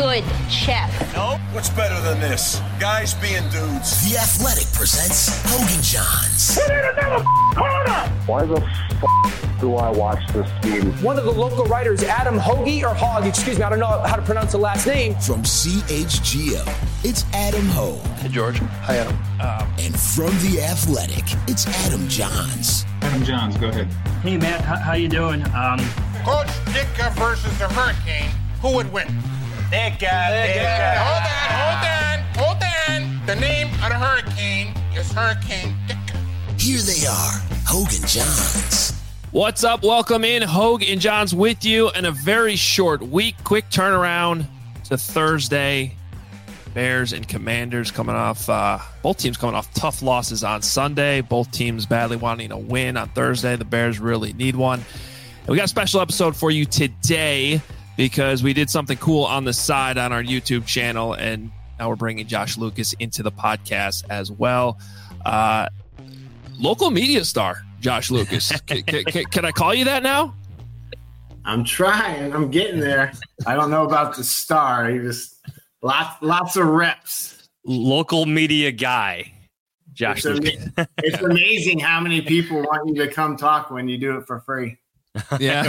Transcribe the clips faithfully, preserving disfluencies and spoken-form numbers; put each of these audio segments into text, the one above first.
good chef. No? What's better than this? Guys being dudes. The Athletic presents Hogan Johns. Put in another corner! Why the f*** do I watch this game? One of the local writers, Adam Hoagie, or Hogg, excuse me, I don't know how to pronounce the last name. From C H G O, it's Adam Hogue. Hey, George. Hi, Adam. Uh, and from The Athletic, it's Adam Johns. Adam Johns, go ahead. Hey, Matt, how, how you doing? Um, Coach Ditka versus the Hurricane. Who would win? Ditka, Ditka. Hold on, hold on, hold on. The name of the Hurricane is Hurricane Ditka. Here they are, Hogan Johns. What's up? Welcome in. Hogue and Johns with you in a very short week. Quick turnaround to Thursday. Bears and Commanders coming off, uh, both teams coming off tough losses on Sunday. Both teams badly wanting a win on Thursday. The Bears really need one. And we got a special episode for you today because we did something cool on the side on our YouTube channel, and now we're bringing Josh Lucas into the podcast as well. Uh, local media star, Josh Lucas. can, can, can I call you that now? I'm trying. I'm getting there. I don't know about the star. You just... Lots, lots of reps. Local media guy, Josh. It's, am- it's amazing how many people want you to come talk when you do it for free. Yeah,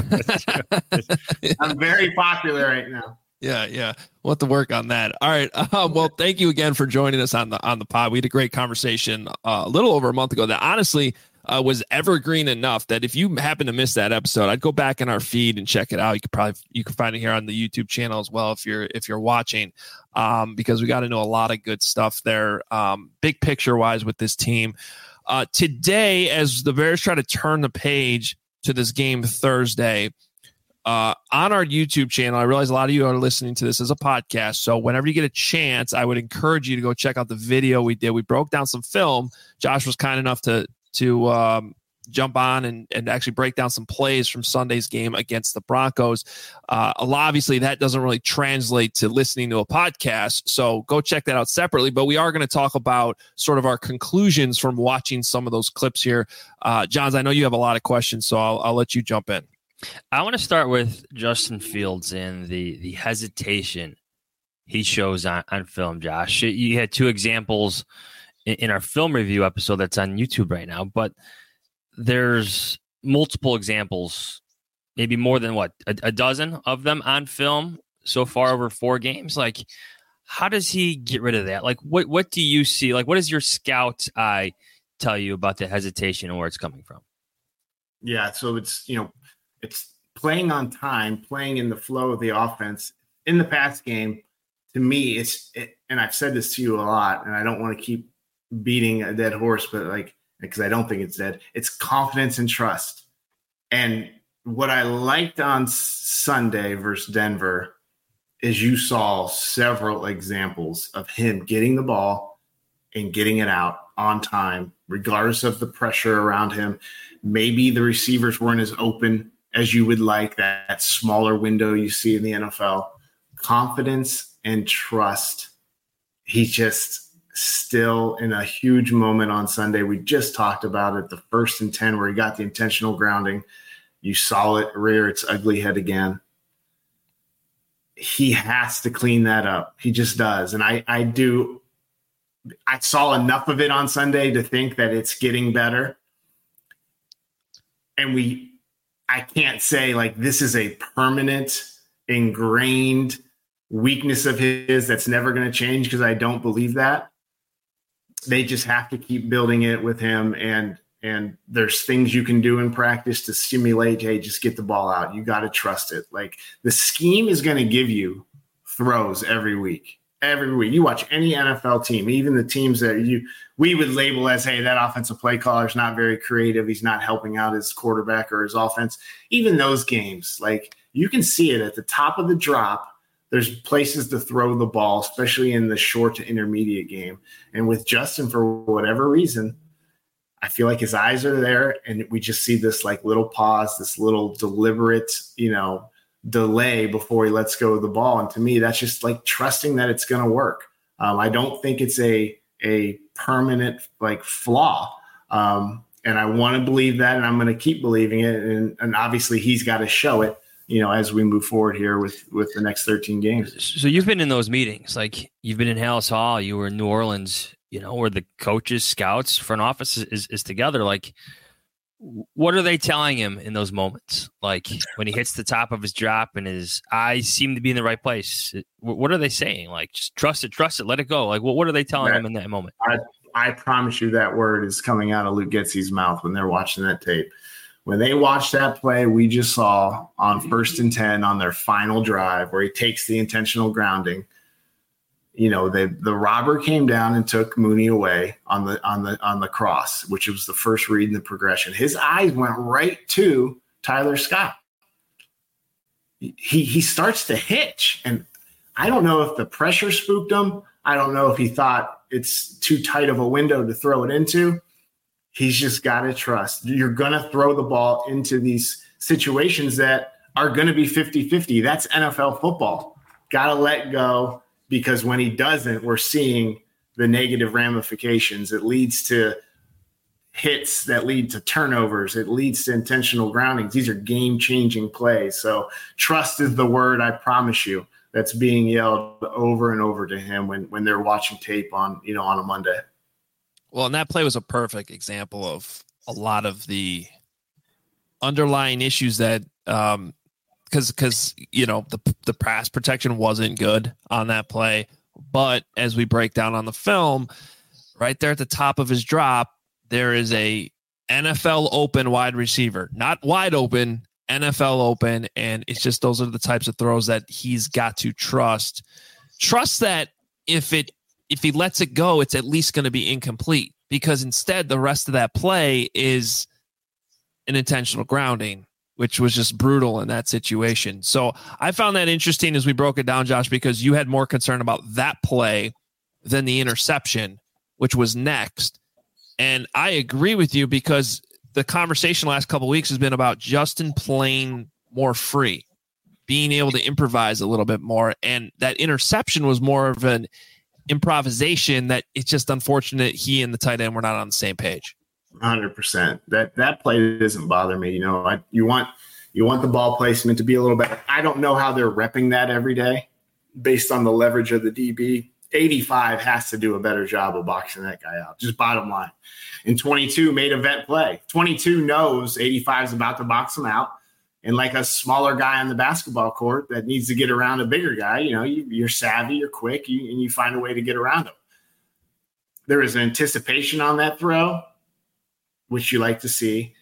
I'm very popular right now. Yeah, yeah. We'll have to work on that. All right. Uh, well, thank you again for joining us on the on the pod. We had a great conversation uh, a little over a month ago that honestly uh, was evergreen enough that if you happen to miss that episode, I'd go back in our feed and check it out. You could probably you can find it here on the YouTube channel as well if you're if you're watching, um, because we got into a lot of good stuff there, um, big picture wise with this team. Uh, today, as the Bears try to turn the page to this game Thursday. Uh, on our YouTube channel, I realize a lot of you are listening to this as a podcast. So whenever you get a chance, I would encourage you to go check out the video we did. We broke down some film. Josh was kind enough to to um, jump on and, and actually break down some plays from Sunday's game against the Broncos. Uh, obviously, that doesn't really translate to listening to a podcast. So go check that out separately. But we are going to talk about sort of our conclusions from watching some of those clips here. Uh, Johns, I know you have a lot of questions, so I'll, I'll let you jump in. I want to start with Justin Fields and the the hesitation he shows on, on film, Josh. You had two examples in, in our film review episode that's on YouTube right now, but there's multiple examples, maybe more than what, a, a dozen of them on film so far over four games. Like, how does he get rid of that? Like, what, what do you see? Like, what does your scout eye tell you about the hesitation and where it's coming from? Yeah, so it's, you know, it's playing on time, playing in the flow of the offense. In the pass game, to me, it's it, and I've said this to you a lot, and I don't want to keep beating a dead horse, but like, because I don't think it's dead. It's confidence and trust. And what I liked on Sunday versus Denver is you saw several examples of him getting the ball and getting it out on time, regardless of the pressure around him. Maybe the receivers weren't as open as you would like, that, that smaller window you see in the N F L. Confidence and trust. He's just still in a huge moment on Sunday. We just talked about it, the first and ten where he got the intentional grounding. You saw it rear its ugly head again. He has to clean that up. He just does. And I, I do. I saw enough of it on Sunday to think that it's getting better. And we, I can't say like this is a permanent, ingrained weakness of his that's never going to change, because I don't believe that. They just have to keep building it with him, and and there's things you can do in practice to stimulate, hey, just get the ball out. You got to trust it. Like, the scheme is going to give you throws every week. Every week. You watch any N F L team, even the teams that you we would label as, hey, that offensive play caller is not very creative. He's not helping out his quarterback or his offense. Even those games, like, you can see it at the top of the drop. There's places to throw the ball, especially in the short to intermediate game. And with Justin, for whatever reason, I feel like his eyes are there, and we just see this like little pause, this little deliberate, you know, delay before he lets go of the ball. And to me, that's just like trusting that it's going to work. Um, I don't think it's a a permanent like flaw. Um, and I want to believe that, and I'm going to keep believing it. And, and obviously he's got to show it. you know, as we move forward here with, with the next thirteen games. So you've been in those meetings, like you've been in Hallis Hall, you were in New Orleans, you know, where the coaches, scouts, front office is, is together. Like, what are they telling him in those moments? Like when he hits the top of his drop and his eyes seem to be in the right place. What are they saying? Like, just trust it, trust it, let it go. Like, what, what are they telling that, him in that moment? I, I promise you that word is coming out of Luke Getsy's mouth when they're watching that tape. When they watch that play we just saw on first and ten on their final drive where he takes the intentional grounding, you know, they, the robber came down and took Mooney away on the on the on the cross, which was the first read in the progression. His eyes went right to Tyler Scott. He he starts to hitch, and I don't know if the pressure spooked him. I don't know if he thought it's too tight of a window to throw it into. He's just got to trust. You're going to throw the ball into these situations that are going to be fifty-fifty. That's N F L football. Got to let go. Because when he doesn't, we're seeing the negative ramifications. It leads to hits that lead to turnovers. It leads to intentional groundings. These are game-changing plays. So trust is the word, I promise you, that's being yelled over and over to him when, when they're watching tape on, you know, on a Monday. Well, and that play was a perfect example of a lot of the underlying issues that um, – Because, because you know, the the pass protection wasn't good on that play. But as we break down on the film, right there at the top of his drop, there is a N F L open wide receiver. Not wide open, N F L open. And it's just those are the types of throws that he's got to trust. Trust that if it if he lets it go, it's at least going to be incomplete. Because instead, the rest of that play is an intentional grounding, which was just brutal in that situation. So I found that interesting as we broke it down, Josh, because you had more concern about that play than the interception, which was next. And I agree with you because the conversation last couple of weeks has been about Justin playing more free, being able to improvise a little bit more. And that interception was more of an improvisation that it's just unfortunate he and the tight end were not on the same page. one hundred percent. That that play doesn't bother me. You know, I, you want you want the ball placement to be a little better. I don't know how they're repping that every day based on the leverage of the D B. eighty-five has to do a better job of boxing that guy out. Just bottom line. And twenty-two made a vet play. twenty-two knows eighty-five is about to box him out. And like a smaller guy on the basketball court that needs to get around a bigger guy, you know, you, you're savvy, you're quick, you, and you find a way to get around him. There is anticipation on that throw, which you like to see.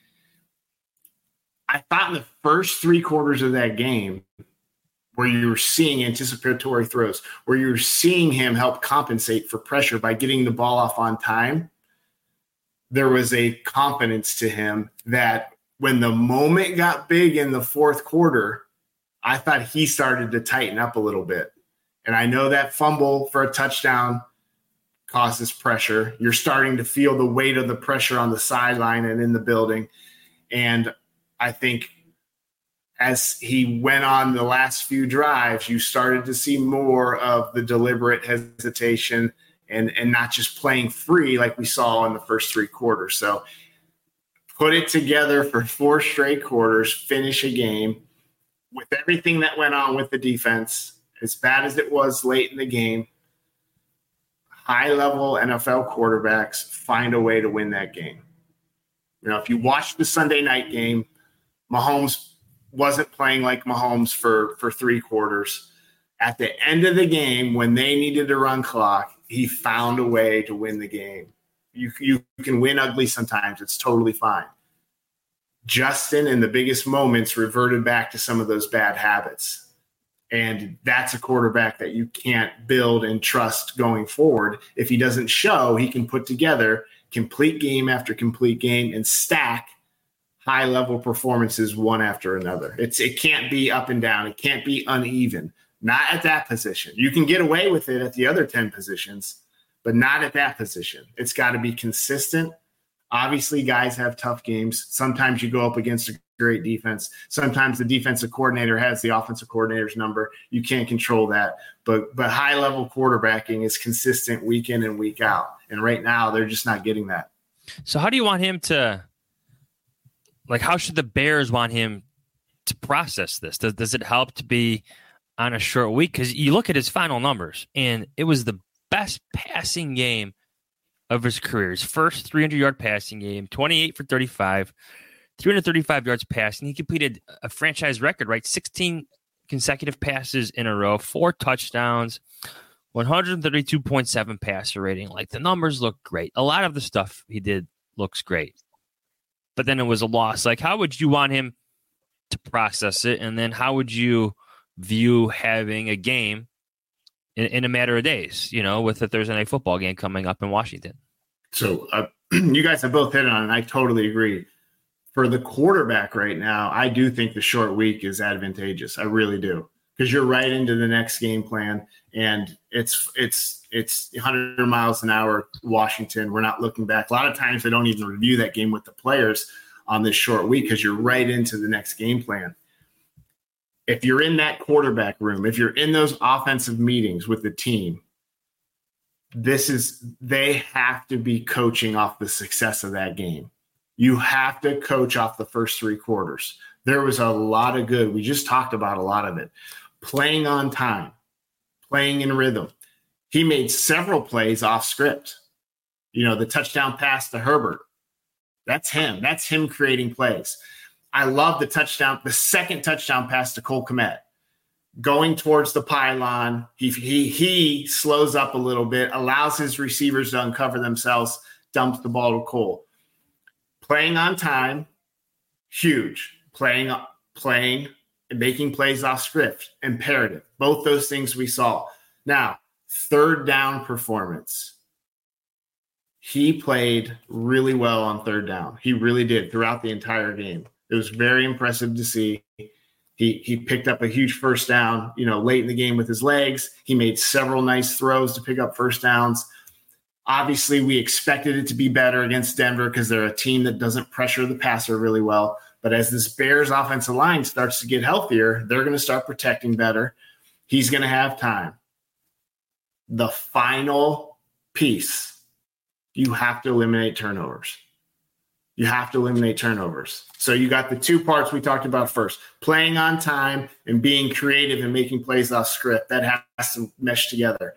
I thought in the first three quarters of that game, where you were seeing anticipatory throws, where you were seeing him help compensate for pressure by getting the ball off on time, there was a confidence to him that when the moment got big in the fourth quarter, I thought he started to tighten up a little bit. And I know that fumble for a touchdown causes pressure. You're starting to feel the weight of the pressure on the sideline and in the building. And I think as he went on the last few drives, you started to see more of the deliberate hesitation and, and not just playing free like we saw in the first three quarters. So put it together for four straight quarters, finish a game with everything that went on with the defense, as bad as it was late in the game. High-level N F L quarterbacks find a way to win that game. You know, if you watch the Sunday night game, Mahomes wasn't playing like Mahomes for, for three quarters. At the end of the game, when they needed to run clock, he found a way to win the game. You, you can win ugly sometimes. It's totally fine. Justin, in the biggest moments, reverted back to some of those bad habits. And that's a quarterback that you can't build and trust going forward. If he doesn't show, he can put together complete game after complete game and stack high-level performances one after another. It's It can't be up and down. It can't be uneven. Not at that position. You can get away with it at the other ten positions, but not at that position. It's got to be consistent. Obviously, guys have tough games. Sometimes you go up against a great defense. Sometimes the defensive coordinator has the offensive coordinator's number. You can't control that. But but high-level quarterbacking is consistent week in and week out. And right now, they're just not getting that. So how do you want him to – like, how should the Bears want him to process this? Does, does it help to be on a short week? Because you look at his final numbers, and it was the best passing game of his career. His first three hundred yard passing game, twenty-eight for thirty-five, three hundred thirty-five yards passing. He completed a franchise record, right? sixteen consecutive passes in a row, four touchdowns, one thirty-two point seven passer rating. Like, the numbers look great. A lot of the stuff he did looks great. But then it was a loss. Like, how would you want him to process it? And then how would you view having a game in, in a matter of days, you know, with the Thursday night football game coming up in Washington? So uh, you guys have both hit on it, and I totally agree. For the quarterback right now, I do think the short week is advantageous. I really do. Because you're right into the next game plan, and it's it's it's one hundred miles an hour Washington. We're not looking back. A lot of times they don't even review that game with the players on this short week because you're right into the next game plan. If you're in that quarterback room, if you're in those offensive meetings with the team, this is they have to be coaching off the success of that game. You have to coach off the first three quarters. There was a lot of good. We just talked about a lot of it. Playing on time, playing in rhythm. He made several plays off script. You know, the touchdown pass to Herbert. That's him. That's him creating plays. I love the touchdown, the second touchdown pass to Cole Kmet. Going towards the pylon, he, he, he slows up a little bit, allows his receivers to uncover themselves, dumps the ball to Cole. Playing on time, huge. Playing, playing, and making plays off script, imperative. Both those things we saw. Now, third down performance. He played really well on third down. He really did throughout the entire game. It was very impressive to see. He he picked up a huge first down, you know, late in the game with his legs. He made several nice throws to pick up first downs. Obviously, we expected it to be better against Denver because they're a team that doesn't pressure the passer really well. But as this Bears offensive line starts to get healthier, they're going to start protecting better. He's going to have time. The final piece, you have to eliminate turnovers. You have to eliminate turnovers. So you got the two parts we talked about first, playing on time and being creative and making plays off script. That has to mesh together.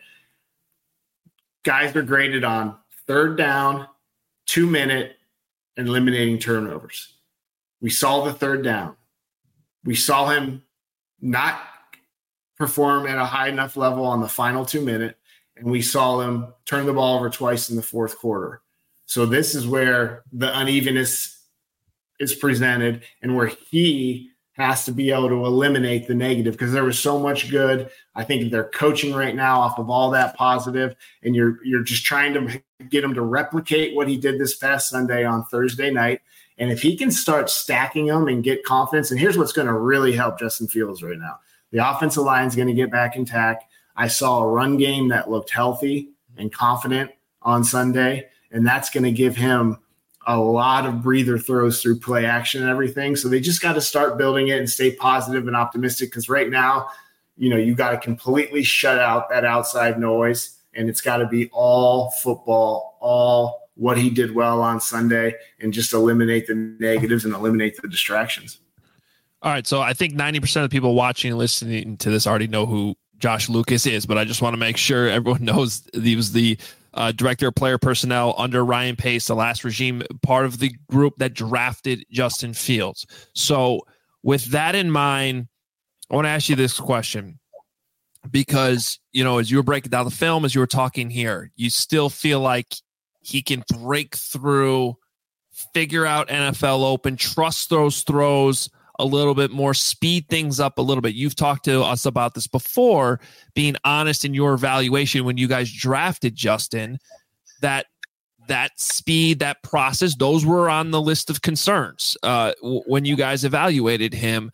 Guys are graded on third down, two minute, and eliminating turnovers. We saw the third down. We saw him not perform at a high enough level on the final two minute, and we saw him turn the ball over twice in the fourth quarter. So this is where the unevenness is presented and where he has to be able to eliminate the negative because there was so much good. I think they're coaching right now off of all that positive, and you're you're just trying to get him to replicate what he did this past Sunday on Thursday night. And if he can start stacking them and get confidence, and here's what's going to really help Justin Fields right now. The offensive line is going to get back intact. I saw a run game that looked healthy and confident on Sunday, and that's going to give him a lot of breather throws through play action and everything. So they just got to start building it and stay positive and optimistic because right now, you know, you got to completely shut out that outside noise, and it's got to be all football, all what he did well on Sunday, and just eliminate the negatives and eliminate the distractions. All right. So I think ninety percent of the people watching and listening to this already know who Josh Lucas is, but I just want to make sure everyone knows he was the uh, director of player personnel under Ryan Pace, the last regime, part of the group that drafted Justin Fields. So with that in mind, I want to ask you this question because, you know, as you were breaking down the film, as you were talking here, you still feel like he can break through, figure out N F L open, trust those throws a little bit more, speed things up a little bit. You've talked to us about this before, being honest in your evaluation when you guys drafted Justin, that that speed, that process, those were on the list of concerns uh, w- when you guys evaluated him.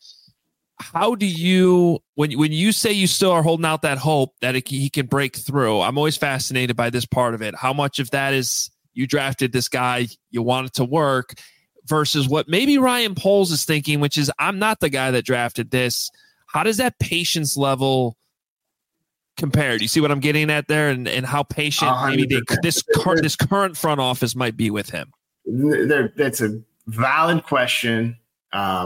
How do you, when, when you say you still are holding out that hope that it, he can break through, I'm always fascinated by this part of it. How much of that is you drafted this guy, you want it to work, versus what maybe Ryan Poles is thinking, which is, I'm not the guy that drafted this. How does that patience level compare? Do you see what I'm getting at there, and, and how patient maybe they, this, cur- this current front office might be with him? There, that's a valid question. Um,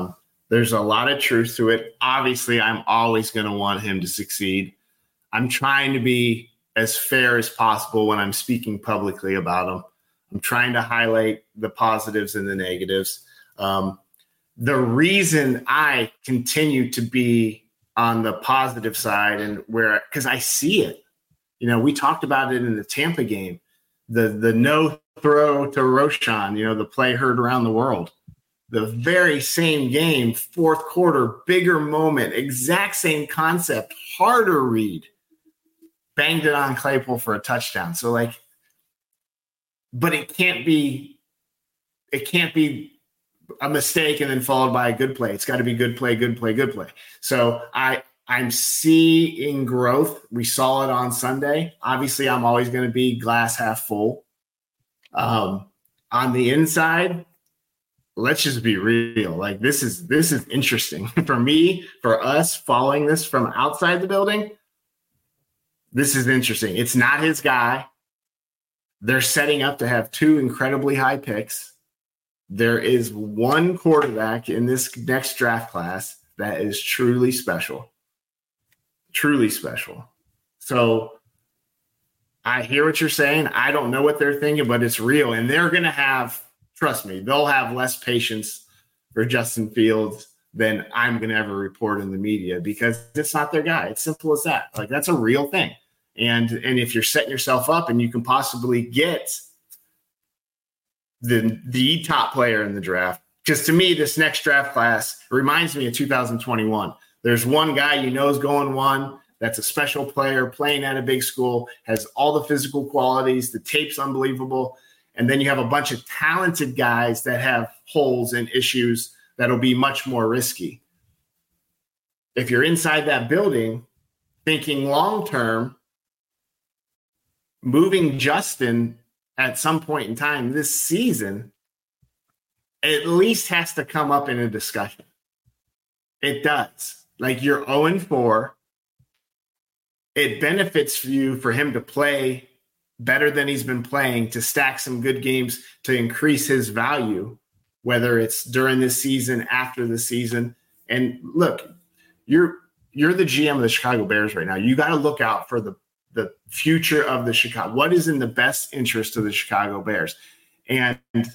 There's a lot of truth to it. Obviously, I'm always going to want him to succeed. I'm trying to be as fair as possible when I'm speaking publicly about him. I'm trying to highlight the positives and the negatives. Um, the reason I continue to be on the positive side and where, because I see it, you know, we talked about it in the Tampa game, the, the no throw to Roschon, you know, the play heard around the world, the very same game, fourth quarter, bigger moment, exact same concept, harder read, banged it on Claypool for a touchdown. So like, but it can't be, it can't be a mistake and then followed by a good play. It's got to be good play, good play, good play. So I, I'm seeing growth. We saw it on Sunday. Obviously, I'm always going to be glass half full. Um, on the inside, let's just be real. Like this is this is interesting for me, for us following this from outside the building. This is interesting. It's not his guy. They're setting up to have two incredibly high picks. There is one quarterback in this next draft class that is truly special. Truly special. So I hear what you're saying. I don't know what they're thinking, but it's real. And they're going to have, trust me, they'll have less patience for Justin Fields than I'm going to ever report in the media because it's not their guy. It's simple as that. Like that's a real thing. And, and if you're setting yourself up and you can possibly get the, the top player in the draft, because to me, this next draft class reminds me of two thousand twenty-one. There's one guy you know is going one. That's a special player playing at a big school, has all the physical qualities. The tape's unbelievable. And then you have a bunch of talented guys that have holes and issues that'll be much more risky. If you're inside that building, thinking long-term, moving Justin at some point in time this season at least has to come up in a discussion. It does. Like you're oh and four. It benefits for you for him to play better than he's been playing, to stack some good games, to increase his value, whether it's during this season, after the season. And look, you're you're the G M of the Chicago Bears right now. You got to look out for the, the future of the Chicago. What is in the best interest of the Chicago Bears? And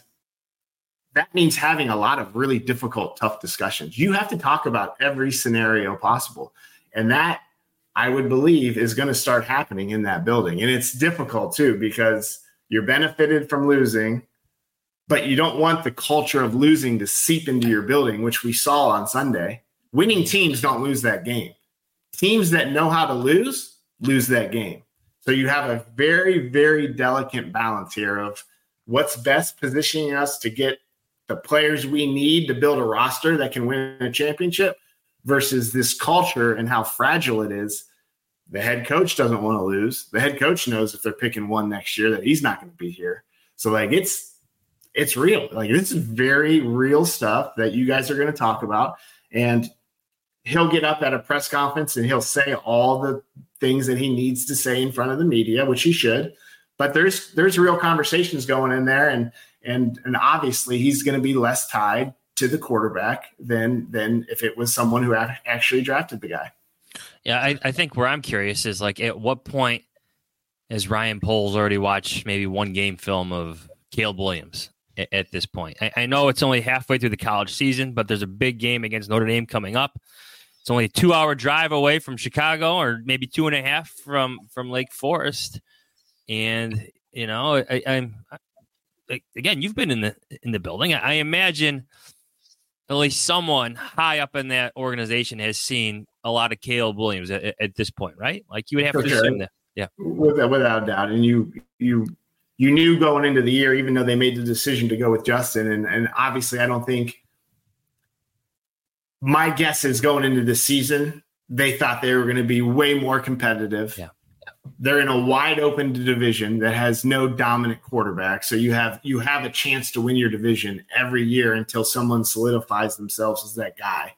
that means having a lot of really difficult, tough discussions. You have to talk about every scenario possible. And that, I would believe, is going to start happening in that building. And it's difficult, too, because you're benefited from losing, but you don't want the culture of losing to seep into your building, which we saw on Sunday. Winning teams don't lose that game. Teams that know how to lose, lose that game. So you have a very, very delicate balance here of what's best positioning us to get the players we need to build a roster that can win a championship versus this culture and how fragile it is. The head coach doesn't want to lose. The head coach knows if they're picking one next year that he's not going to be here. So like it's it's real. Like this is very real stuff that you guys are going to talk about. And he'll get up at a press conference and he'll say all the things that he needs to say in front of the media, which he should. But there's there's real conversations going in there, and and and obviously he's going to be less tied to the quarterback than than if it was someone who actually drafted the guy. Yeah, I, I think where I'm curious is like at what point has Ryan Poles already watched maybe one game film of Caleb Williams at, at this point? I, I know it's only halfway through the college season, but there's a big game against Notre Dame coming up. It's only a two-hour drive away from Chicago, or maybe two and a half from from Lake Forest. And you know, I, I'm I, again, you've been in the in the building. I, I imagine at least someone high up in that organization has seen a lot of Caleb Williams at, at this point, right? Like you would have For to sure. assume that, yeah, without, without a doubt. And you you you knew going into the year, even though they made the decision to go with Justin, and and obviously, I don't think. My guess is going into the season, they thought they were going to be way more competitive. Yeah. They're in a wide open division that has no dominant quarterback. So you have you have a chance to win your division every year until someone solidifies themselves as that guy.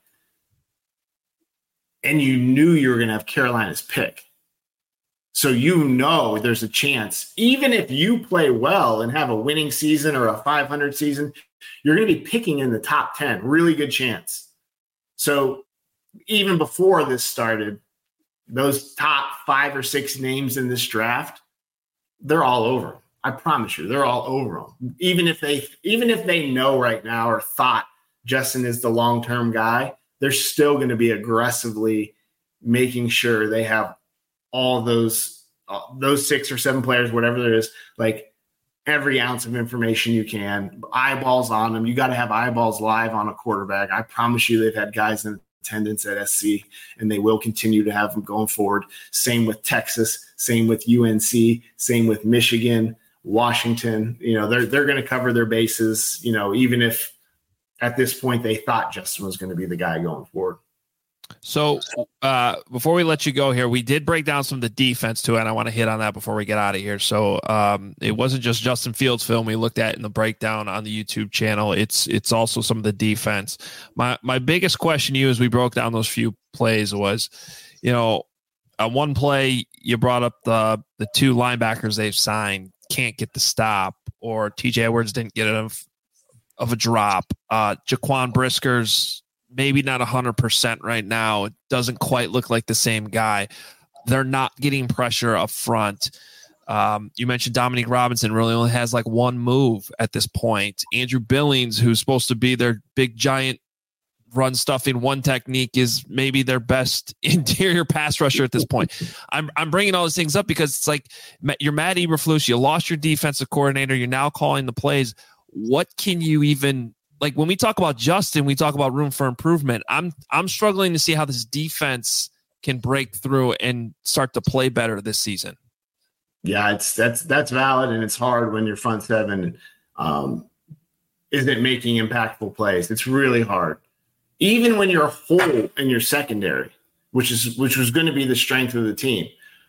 And you knew you were going to have Carolina's pick. So you know there's a chance, even if you play well and have a winning season or a five hundred season, you're going to be picking in the top ten. Really good chance. So even before this started, those top five or six names in this draft, they're all over them. I promise you, they're all over them. Even if they, even if they know right now or thought Justin is the long-term guy, they're still going to be aggressively making sure they have all those, uh, those six or seven players, whatever there is, like every ounce of information you can, eyeballs on them. You got to have eyeballs live on a quarterback. I promise you, they've had guys in attendance at S C, and they will continue to have them going forward. Same with Texas, same with U N C, same with Michigan, Washington. You know, they're they're going to cover their bases, you know, even if at this point they thought Justin was going to be the guy going forward. So uh, before we let you go here, we did break down some of the defense too, and I want to hit on that before we get out of here. So um, it wasn't just Justin Fields film we looked at in the breakdown on the YouTube channel. It's it's also some of the defense. My my biggest question to you as we broke down those few plays was, you know, on one play you brought up the the two linebackers they've signed can't get the stop, or T J Edwards didn't get enough of a drop. Uh, Jaquan Brisker's maybe not one hundred percent right now. It doesn't quite look like the same guy. They're not getting pressure up front. Um, you mentioned Dominique Robinson really only has like one move at this point. Andrew Billings, who's supposed to be their big giant run stuffing one technique, is maybe their best interior pass rusher at this point. I'm I'm bringing all these things up because it's like you're Matt Eberflus. You lost your defensive coordinator. You're now calling the plays. What can you even like when we talk about Justin, we talk about room for improvement. I'm I'm struggling to see how this defense can break through and start to play better this season. Yeah, it's that's that's valid, and it's hard when your front seven um, isn't making impactful plays. It's really hard, even when you're whole in your secondary, which is which was going to be the strength of the team.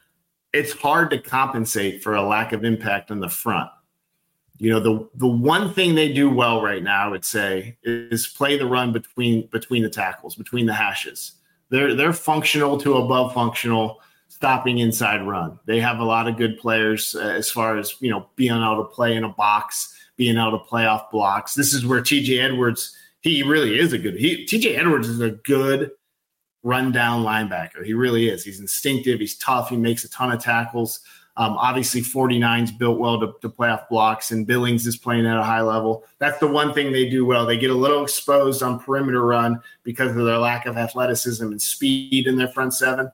It's hard to compensate for a lack of impact on the front. You know, the the one thing they do well right now, I would say, is play the run between between the tackles, between the hashes. They're they're functional to above functional, stopping inside run. They have a lot of good players uh, as far as, you know, being able to play in a box, being able to play off blocks. This is where T J Edwards, he really is a good he, – T J Edwards is a good rundown linebacker. He really is. He's instinctive. He's tough. He makes a ton of tackles. Um, obviously, forty-nine's built well to, to play off blocks, and Billings is playing at a high level. That's the one thing they do well. They get a little exposed on perimeter run because of their lack of athleticism and speed in their front seven.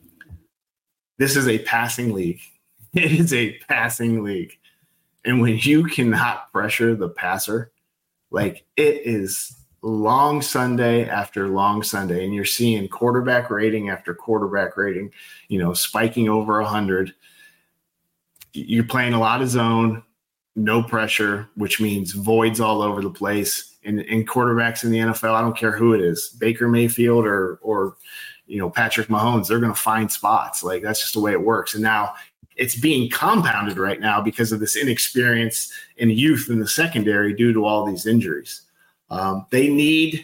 This is a passing league. It is a passing league. And when you cannot pressure the passer, like it is long Sunday after long Sunday, and you're seeing quarterback rating after quarterback rating, you know, spiking over one hundred. You're playing a lot of zone, no pressure, which means voids all over the place. And, and quarterbacks in the N F L, I don't care who it is, Baker Mayfield or, or you know, Patrick Mahomes, they're going to find spots. Like that's just the way it works. And now it's being compounded right now because of this inexperience and youth in the secondary due to all these injuries. Um, they need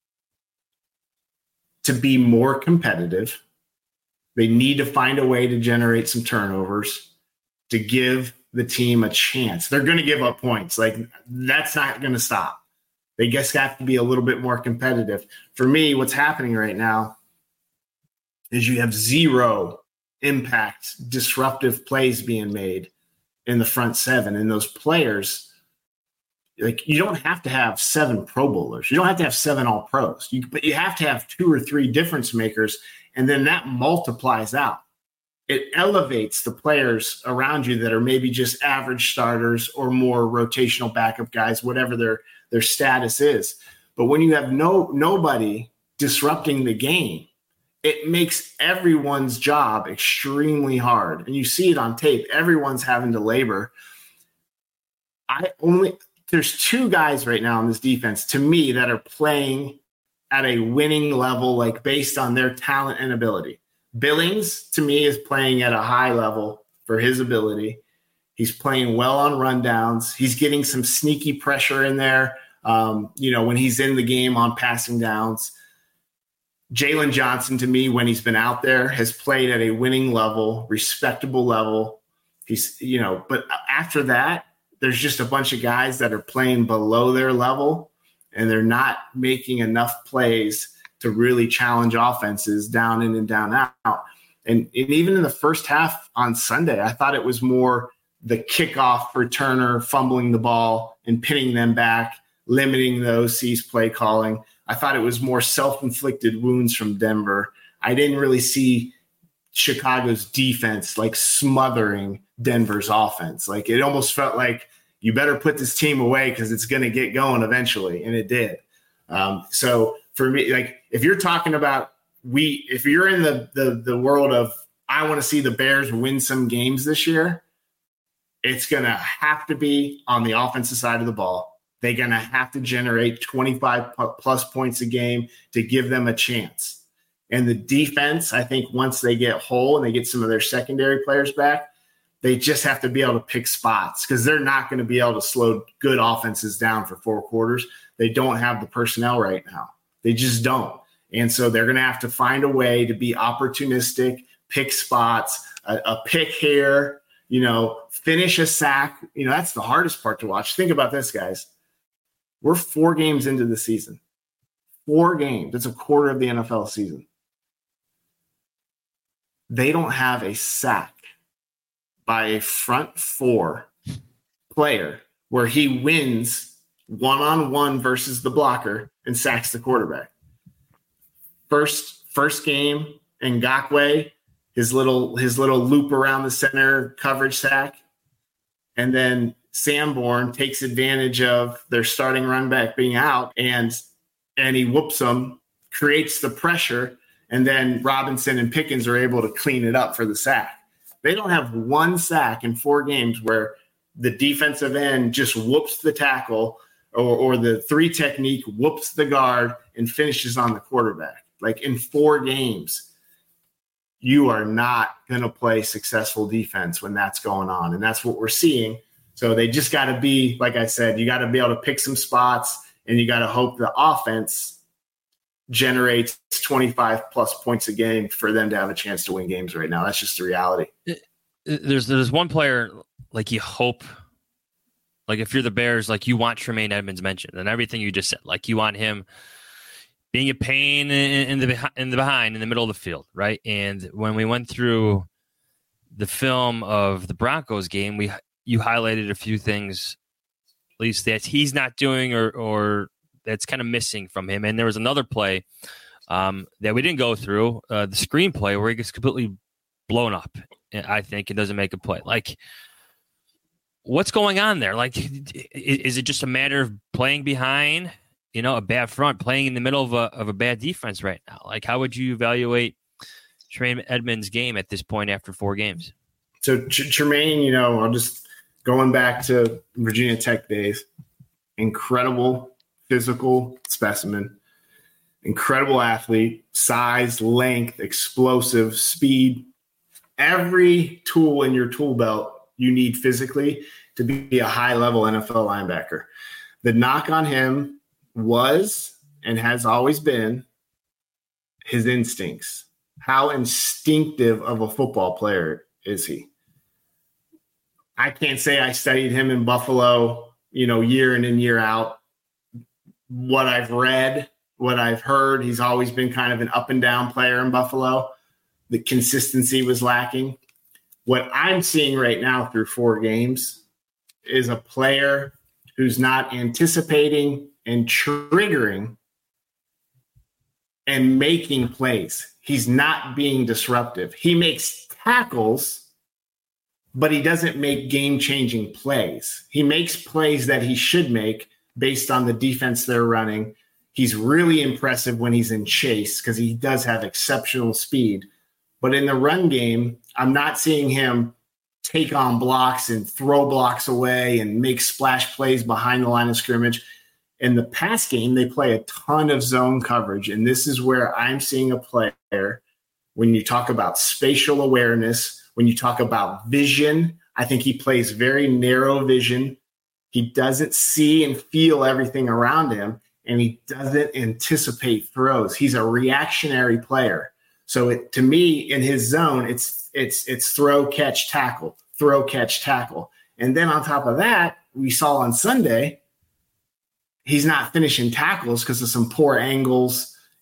to be more competitive. They need to find a way to generate some turnovers to give the team a chance. They're going to give up points. Like that's not going to stop. They just have to be a little bit more competitive. For me, what's happening right now is you have zero impact, disruptive plays being made in the front seven. And those players, like you don't have to have seven Pro Bowlers. You don't have to have seven All Pros, you, but you have to have two or three difference makers. And then that multiplies out. It elevates the players around you that are maybe just average starters or more rotational backup guys, whatever their, their status is. But when you have no nobody disrupting the game, it makes everyone's job extremely hard. And you see it on tape. Everyone's having to labor. I only there's two guys right now on this defense to me that are playing at a winning level, like based on their talent and ability. Billings, to me, is playing at a high level for his ability. He's playing well on rundowns. He's getting some sneaky pressure in there, um, you know, when he's in the game on passing downs. Jalen Johnson, to me, when he's been out there, has played at a winning level, respectable level. He's, you know, but after that, there's just a bunch of guys that are playing below their level, and they're not making enough plays to really challenge offenses down in and down out. And, and even in the first half on Sunday, I thought it was more the kickoff returner fumbling the ball and pinning them back, limiting the O C's play calling. I thought it was more self-inflicted wounds from Denver. I didn't really see Chicago's defense like smothering Denver's offense. Like it almost felt like you better put this team away because it's going to get going eventually. And it did. Um, so for me, like if you're talking about we, if you're in the, the, the world of, I want to see the Bears win some games this year, it's going to have to be on the offensive side of the ball. They're going to have to generate twenty-five plus points a game to give them a chance. And the defense, I think once they get whole and they get some of their secondary players back, they just have to be able to pick spots because they're not going to be able to slow good offenses down for four quarters. They don't have the personnel right now. They just don't. And so they're going to have to find a way to be opportunistic, pick spots, a, a pick here, you know, finish a sack. You know, that's the hardest part to watch. Think about this, guys. We're four games into the season. Four games. That's a quarter of the N F L season. They don't have a sack by a front four player where he wins one-on-one versus the blocker and sacks the quarterback. First, first game, Ngakoue, his little his little loop around the center coverage sack, and then Sanborn takes advantage of their starting run back being out, and and he whoops them, creates the pressure, and then Robinson and Pickens are able to clean it up for the sack. They don't have one sack in four games where the defensive end just whoops the tackle or, or the three technique whoops the guard and finishes on the quarterback. Like in four games, you are not going to play successful defense when that's going on. And that's what we're seeing. So they just got to be, like I said, you got to be able to pick some spots and you got to hope the offense generates twenty-five plus points a game for them to have a chance to win games right now. That's just the reality. There's there's one player like you hope, like if you're the Bears, like you want Tremaine Edmonds mentioned and everything you just said, like you want him being a pain in, in the in the behind in the middle of the field, right? And when we went through the film of the Broncos game, we you highlighted a few things, at least that he's not doing or or that's kind of missing from him. And there was another play um, that we didn't go through, uh, the screenplay where he gets completely blown up, I think, and doesn't make a play. Like, what's going on there? Like, is it just a matter of playing behind, you know, a bad front, playing in the middle of a of a bad defense right now? Like, how would you evaluate Tremaine Edmonds' game at this point after four games? So Tremaine, you know, I'll just going back to Virginia Tech days, incredible physical specimen, incredible athlete, size, length, explosive, speed, every tool in your tool belt you need physically to be a high-level N F L linebacker. The knock on him was and has always been his instincts. How instinctive of a football player is he? I can't say I studied him in Buffalo, you know, year in and year out. What I've read, what I've heard, he's always been kind of an up and down player in Buffalo. The consistency was lacking. What I'm seeing right now through four games is a player who's not anticipating and triggering and making plays. He's not being disruptive. He makes tackles, but he doesn't make game-changing plays. He makes plays that he should make based on the defense they're running. He's really impressive when he's in chase because he does have exceptional speed. But in the run game, I'm not seeing him take on blocks and throw blocks away and make splash plays behind the line of scrimmage. In the pass game, they play a ton of zone coverage. And this is where I'm seeing a player, when you talk about spatial awareness, when you talk about vision, I think he plays very narrow vision. He doesn't see and feel everything around him, and he doesn't anticipate throws. He's a reactionary player. So it, to me, in his zone, it's it's it's throw, catch, tackle, throw, catch, tackle. And then on top of that, we saw on Sunday, he's not finishing tackles because of some poor angles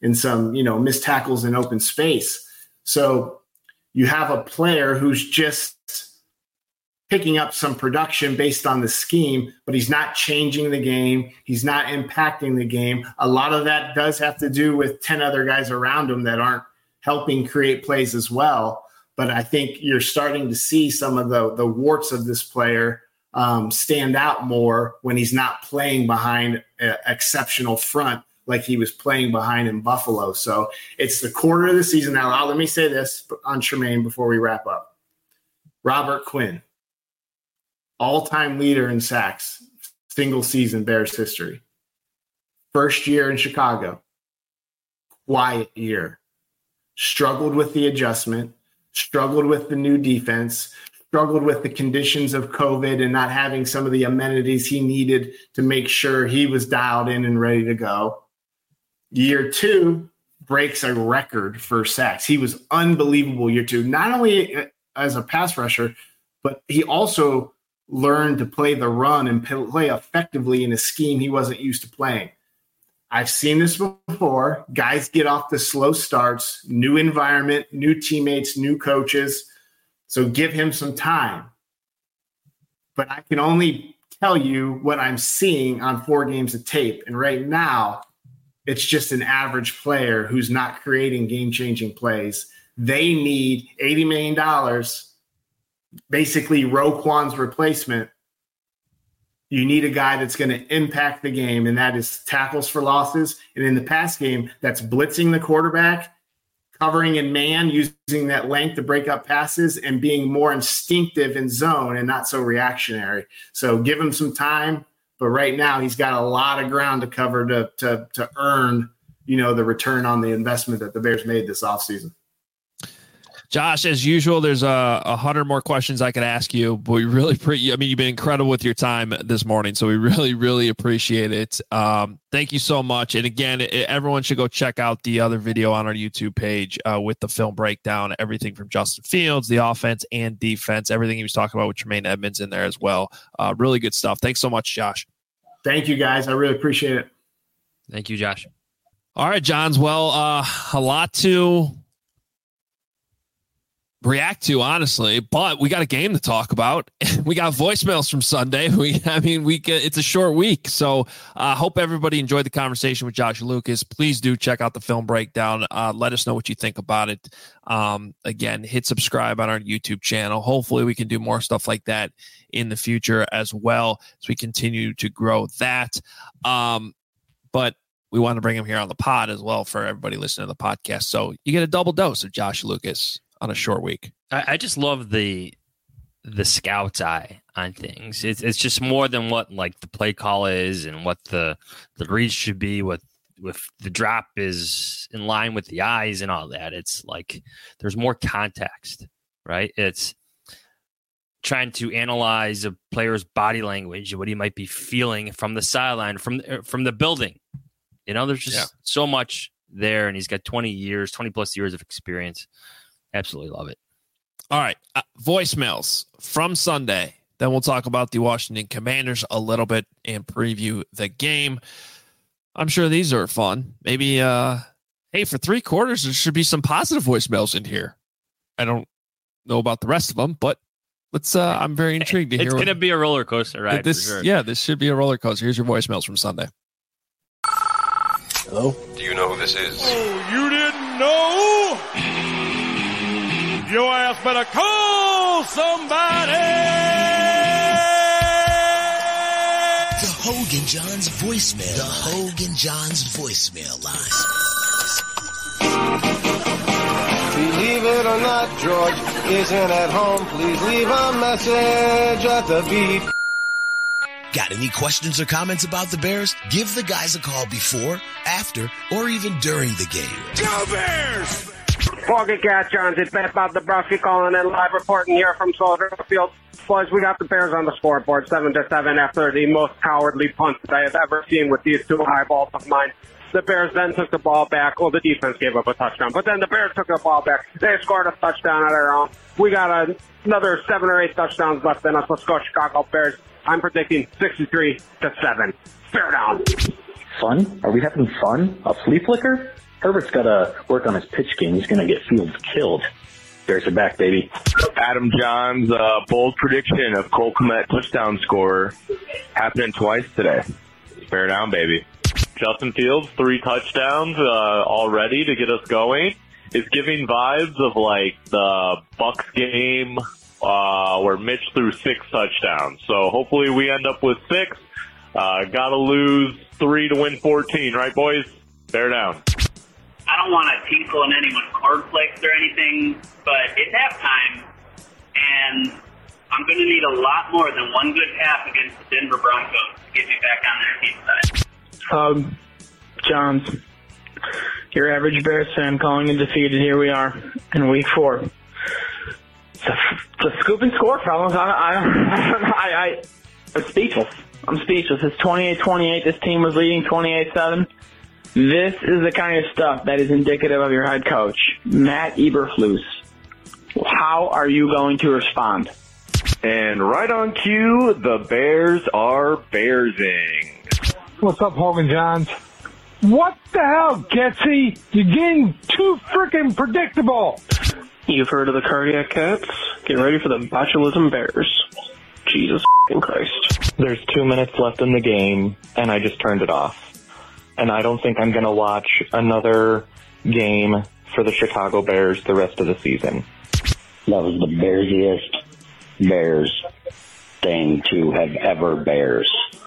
and some, you know, missed tackles in open space. So you have a player who's just picking up some production based on the scheme, but he's not changing the game. He's not impacting the game. A lot of that does have to do with ten other guys around him that aren't helping create plays as well. But I think you're starting to see some of the, the warts of this player um, stand out more when he's not playing behind an exceptional front like he was playing behind in Buffalo. So it's the quarter of the season. Now, let me say this on Tremaine before we wrap up. Robert Quinn, all-time leader in sacks, single season Bears history. First year in Chicago, quiet year. Struggled with the adjustment, struggled with the new defense, struggled with the conditions of COVID and not having some of the amenities he needed to make sure he was dialed in and ready to go. Year two breaks a record for sacks. He was unbelievable year two, not only as a pass rusher, but he also learned to play the run and play effectively in a scheme he wasn't used to playing. I've seen this before. Guys get off the slow starts, new environment, new teammates, new coaches. So give him some time. But I can only tell you what I'm seeing on four games of tape. And right now, it's just an average player who's not creating game-changing plays. They need eighty million dollars, basically Roquan's replacement. You need a guy that's going to impact the game, and that is tackles for losses. And in the pass game, that's blitzing the quarterback, covering in man, using that length to break up passes, and being more instinctive in zone and not so reactionary. So give him some time, but right now he's got a lot of ground to cover to to to earn, you know, the return on the investment that the Bears made this offseason. Josh, as usual, there's a, a hundred more questions I could ask you, but we really, pre- I mean, you've been incredible with your time this morning, so we really, really appreciate it. Um, thank you so much. And again, it, everyone should go check out the other video on our YouTube page uh, with the film breakdown, everything from Justin Fields, the offense and defense, everything he was talking about with Tremaine Edmunds in there as well. Uh, really good stuff. Thanks so much, Josh. Thank you, guys. I really appreciate it. Thank you, Josh. All right, Johns. Well, uh, a lot to react to, honestly, but we got a game to talk about. We got voicemails from Sunday. We, I mean, we get, it's a short week, so I uh, hope everybody enjoyed the conversation with Josh Lucas. Please do check out the film breakdown. Uh, let us know what you think about it. Um, again, hit subscribe on our YouTube channel. Hopefully, we can do more stuff like that in the future as well as we continue to grow that. Um, but we want to bring him here on the pod as well for everybody listening to the podcast. So you get a double dose of Josh Lucas on a short week. I, I just love the the scout's eye on things. It's it's just more than what like the play call is and what the the read should be. With with the drop is in line with the eyes and all that. It's like there's more context, right? It's trying to analyze a player's body language, what he might be feeling from the sideline, from from the building. You know, there's just yeah. so much there, and he's got twenty years, twenty plus years of experience. Absolutely love it. All right. Uh, voicemails from Sunday. Then we'll talk about the Washington Commanders a little bit and preview the game. I'm sure these are fun. Maybe, uh, hey, for three quarters, there should be some positive voicemails in here. I don't know about the rest of them, but let's, uh, I'm very intrigued to hear. It's going to be a roller coaster ride. This, for sure. Yeah, this should be a roller coaster. Here's your voicemails from Sunday. Hello? Do you know who this is? Oh, you didn't know? Your ass better call somebody! The Hogan Johns voicemail. The Hogan Johns voicemail line. Believe it or not, George isn't at home. Please leave a message at the beep. Got any questions or comments about the Bears? Give the guys a call before, after, or even during the game. Go Bears! Foggy Cat Johns, it's Ben Bob Dabrowski calling in live reporting here from Soldier Field. Boys, we got the Bears on the scoreboard, seven to seven, after the most cowardly punt that I have ever seen with these two eyeballs of mine. The Bears then took the ball back. Well, the defense gave up a touchdown, but then the Bears took the ball back. They scored a touchdown of their own. We got a, another seven or eight touchdowns left in us. Let's go Chicago Bears. I'm predicting sixty-three to seven. Bear down. Fun? Are we having fun? A flea flicker? Herbert's got to work on his pitch game. He's going to get Fields killed. Bears are back, baby. Adam John's uh, bold prediction of Cole Kmet touchdown scorer happening twice today. Bear down, baby. Justin Fields, three touchdowns uh, already to get us going. It's giving vibes of like the Bucks game uh, where Mitch threw six touchdowns. So hopefully we end up with six. Uh, gotta lose three to win fourteen, right, boys? Bear down. I don't want to tinkle in anyone's cornflakes or anything, but it's halftime, and I'm going to need a lot more than one good half against the Denver Broncos to get me back on their team side. Um, Johns, your average Bears fan calling it defeated. Here we are in week four. It's a, it's a scoop and score, fellas. I, I, I, I, I'm speechless. I'm speechless. It's twenty-eight twenty-eight. This team was leading twenty-eight seven. This is the kind of stuff that is indicative of your head coach, Matt Eberflus. How are you going to respond? And right on cue, the Bears are Bearsing. What's up, Hogan Johns? What the hell, Getsy? You're getting too freaking predictable. You've heard of the Cardiac Cats? Get ready for the botulism Bears. Jesus Christ. There's two minutes left in the game, and I just turned it off. And I don't think I'm going to watch another game for the Chicago Bears the rest of the season. That was the Bearsiest Bears thing to have ever Bears.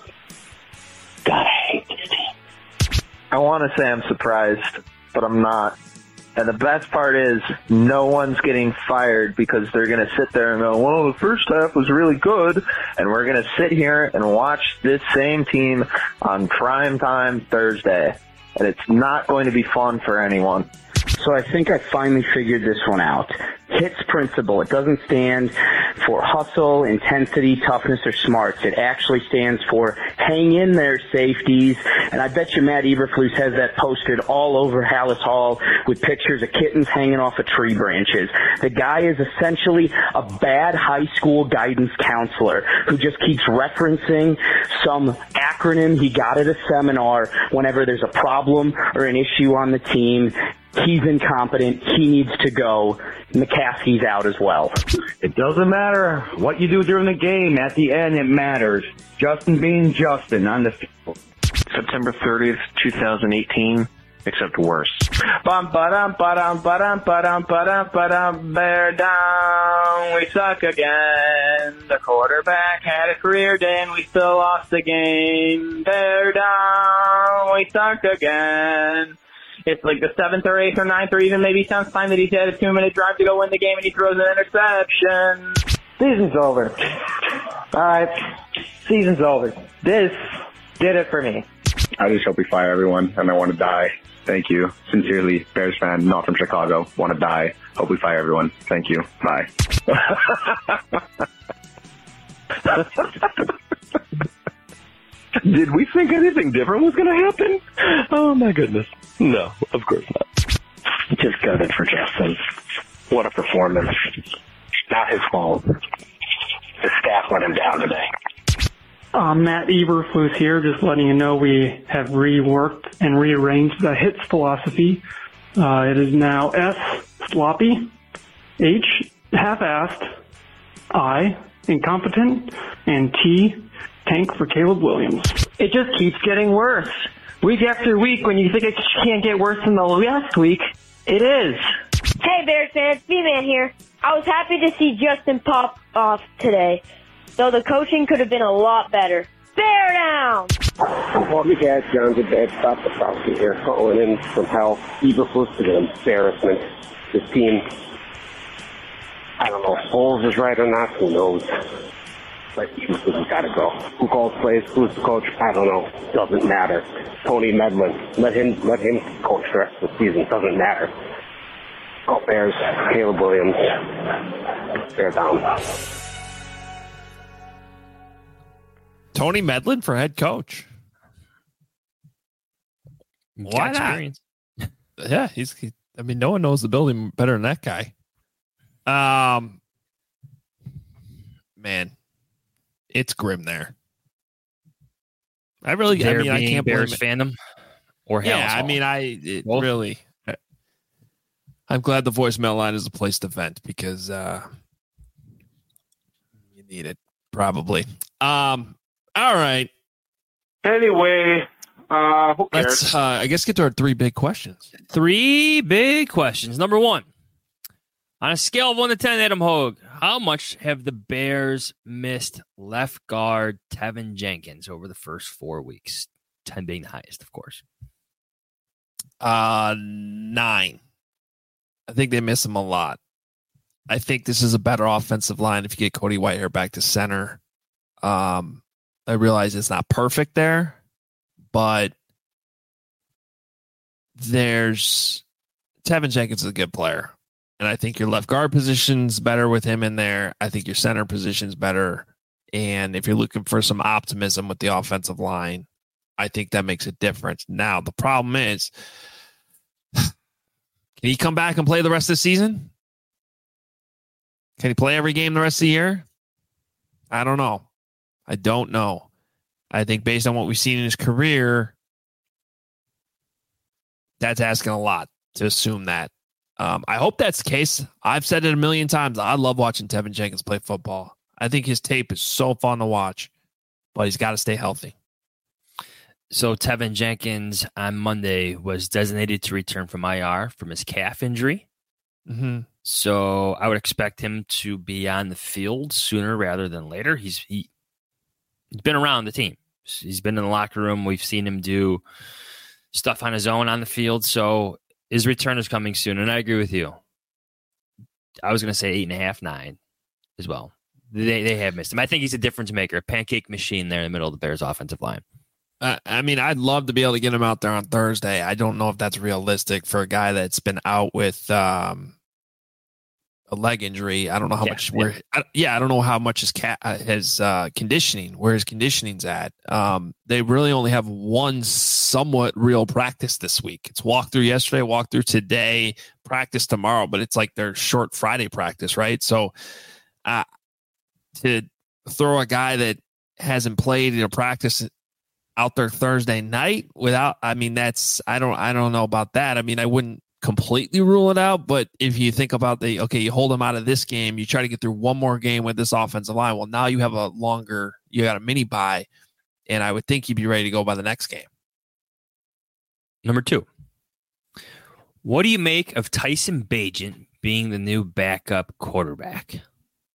God, I hate this team. I want to say I'm surprised, but I'm not. And the best part is no one's getting fired because they're going to sit there and go, well, the first half was really good, and we're going to sit here and watch this same team on prime time Thursday. And it's not going to be fun for anyone. So I think I finally figured this one out. HITS principle. It doesn't stand for hustle, intensity, toughness, or smarts. It actually stands for hang in there, safeties. And I bet you Matt Eberflus has that posted all over Hallis Hall with pictures of kittens hanging off of tree branches. The guy is essentially a bad high school guidance counselor who just keeps referencing some acronym he got at a seminar whenever there's a problem or an issue on the team. He's incompetent. He needs to go. McCaskey's out as well. It doesn't matter what you do during the game. At the end, it matters. Justin being Justin on the field. September thirtieth, twenty eighteen, except worse. Bum ba-dum ba-dum ba-dum ba-dum ba-dum ba-dum. Bear down. We suck again. The quarterback had a career day and we still lost the game. Bear down. We suck again. It's like the seventh or eighth or ninth or even maybe tenth time that he's had a two-minute drive to go win the game and he throws an interception. Season's over. All right. Season's over. This did it for me. I just hope we fire everyone, and I want to die. Thank you. Sincerely, Bears fan, not from Chicago. Want to die. Hope we fire everyone. Thank you. Bye. Did we think anything different was going to happen? Oh, my goodness. No, of course not. Just gutted for Justin. What a performance. Not his fault. The staff let him down today. Uh, Matt Eberflus here, just letting you know we have reworked and rearranged the HITS philosophy. Uh, it is now S, sloppy, H, half-assed, I, incompetent, and T, tank for Caleb Williams. It just keeps getting worse. Week after week, when you think it can't get worse than the last week, it is. Hey, Bears fans, B-Man here. I was happy to see Justin pop off today, though the coaching could have been a lot better. Bear down! Well, you guys, John's a bad stop the Frosty here, calling in from hell. Eberflus to the embarrassment. This team, I don't know if Foles is right or not, who knows? But Eberflus has got to go. Who calls plays? Who's the coach? I don't know. Doesn't matter. Tony Medlin, let him let him coach the rest of the season. Doesn't matter. Go Bears. Caleb Williams. Bear down. Tony Medlin for head coach. Why not? Yeah, he's. He, I mean, no one knows the building better than that guy. Um, man, it's grim there. I really, There I mean, I being can't Bears blame fandom or yeah. Hallis I Hall. mean, I it Both? really, I'm glad the voicemail line is a place to vent because uh, you need it probably. Um, all right. Anyway, uh, who cares? Let's, uh, I guess, get to our three big questions. Three big questions. Number one, on a scale of one to ten, Adam Hogue, how much have the Bears missed left guard Tevin Jenkins over the first four weeks? ten being the highest, of course. Uh, nine. I think they miss him a lot. I think this is a better offensive line if you get Cody Whitehair back to center. Um, I realize it's not perfect there, but there's Tevin Jenkins is a good player. And I think your left guard position's better with him in there. I think your center position's better. And if you're looking for some optimism with the offensive line, I think that makes a difference. Now, the problem is, can he come back and play the rest of the season? Can he play every game the rest of the year? I don't know. I don't know. I think based on what we've seen in his career, that's asking a lot to assume that. Um, I hope that's the case. I've said it a million times. I love watching Tevin Jenkins play football. I think his tape is so fun to watch, but he's got to stay healthy. So Tevin Jenkins on Monday was designated to return from I R from his calf injury. Mm-hmm. So I would expect him to be on the field sooner rather than later. He's he, he's been around the team. He's been in the locker room. We've seen him do stuff on his own on the field. So his return is coming soon. And I agree with you. I was going to say eight and a half, nine as well. They they have missed him. I think he's a difference maker, a pancake machine there in the middle of the Bears offensive line. Uh, I mean, I'd love to be able to get him out there on Thursday. I don't know if that's realistic for a guy that's been out with um, a leg injury. I don't know how yeah, much. Where, yeah. I, yeah, I don't know how much his cat uh, his uh, conditioning, where his conditioning's at. Um, they really only have one somewhat real practice this week. It's walkthrough yesterday, walkthrough today, practice tomorrow. But it's like their short Friday practice, right? So, uh, to throw a guy that hasn't played in a practice out there Thursday night without, I mean, that's, I don't, I don't know about that. I mean, I wouldn't completely rule it out, but if you think about the, okay, you hold him out of this game, you try to get through one more game with this offensive line. Well, now you have a longer, you got a mini bye, and I would think you'd be ready to go by the next game. Number two, what do you make of Tyson Bagent being the new backup quarterback? Do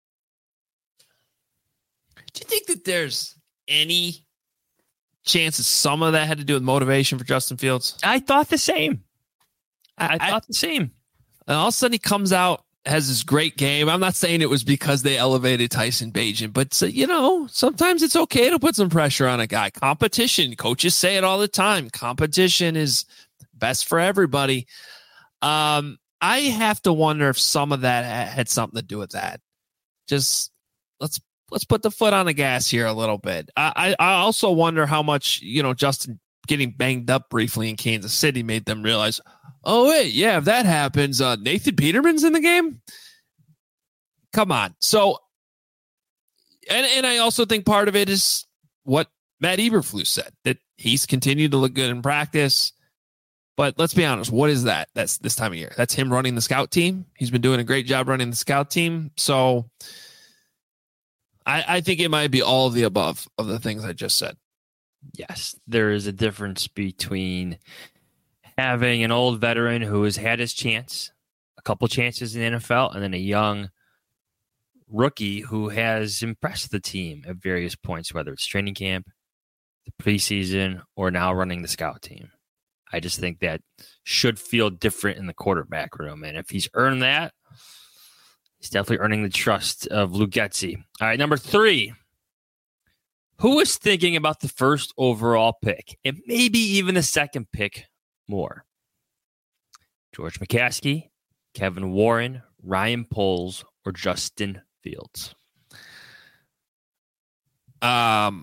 you think that there's any chances some of that had to do with motivation for Justin Fields? I thought the same. I, I thought the same. And all of a sudden he comes out, has this great game. I'm not saying it was because they elevated Tyson Bagent, but so, you know, sometimes it's okay to put some pressure on a guy. Competition, coaches say it all the time. Competition is best for everybody. Um, I have to wonder if some of that had something to do with that. Just let's Let's put the foot on the gas here a little bit. I, I also wonder how much, you know, Justin getting banged up briefly in Kansas City made them realize, oh, wait, yeah, if that happens, uh, Nathan Peterman's in the game? Come on. So, and, and I also think part of it is what Matt Eberflus said, that he's continued to look good in practice. But let's be honest, what is that? That's this time of year. That's him running the scout team. He's been doing a great job running the scout team. So, I, I think it might be all of the above of the things I just said. Yes, there is a difference between having an old veteran who has had his chance, a couple chances in the N F L, and then a young rookie who has impressed the team at various points, whether it's training camp, the preseason, or now running the scout team. I just think that should feel different in the quarterback room. And if he's earned that, he's definitely earning the trust of Luke Getsy. All right, number three. Who is thinking about the first overall pick and maybe even the second pick more? George McCaskey, Kevin Warren, Ryan Poles, or Justin Fields? Um,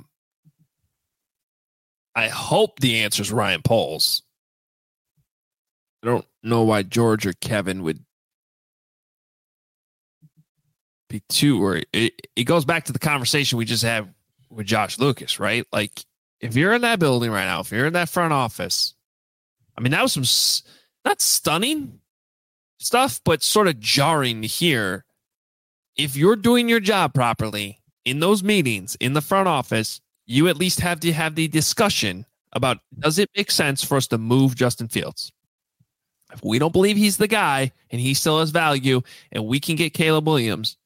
I hope the answer is Ryan Poles. I don't know why George or Kevin would be too worried. It, it goes back to the conversation we just had with Josh Lucas, right? Like, if you're in that building right now, if you're in that front office, I mean, that was some not stunning, stuff, but sort of jarring to hear. If you're doing your job properly in those meetings in the front office, you at least have to have the discussion about, does it make sense for us to move Justin Fields? If we don't believe he's the guy and he still has value and we can get Caleb Williams,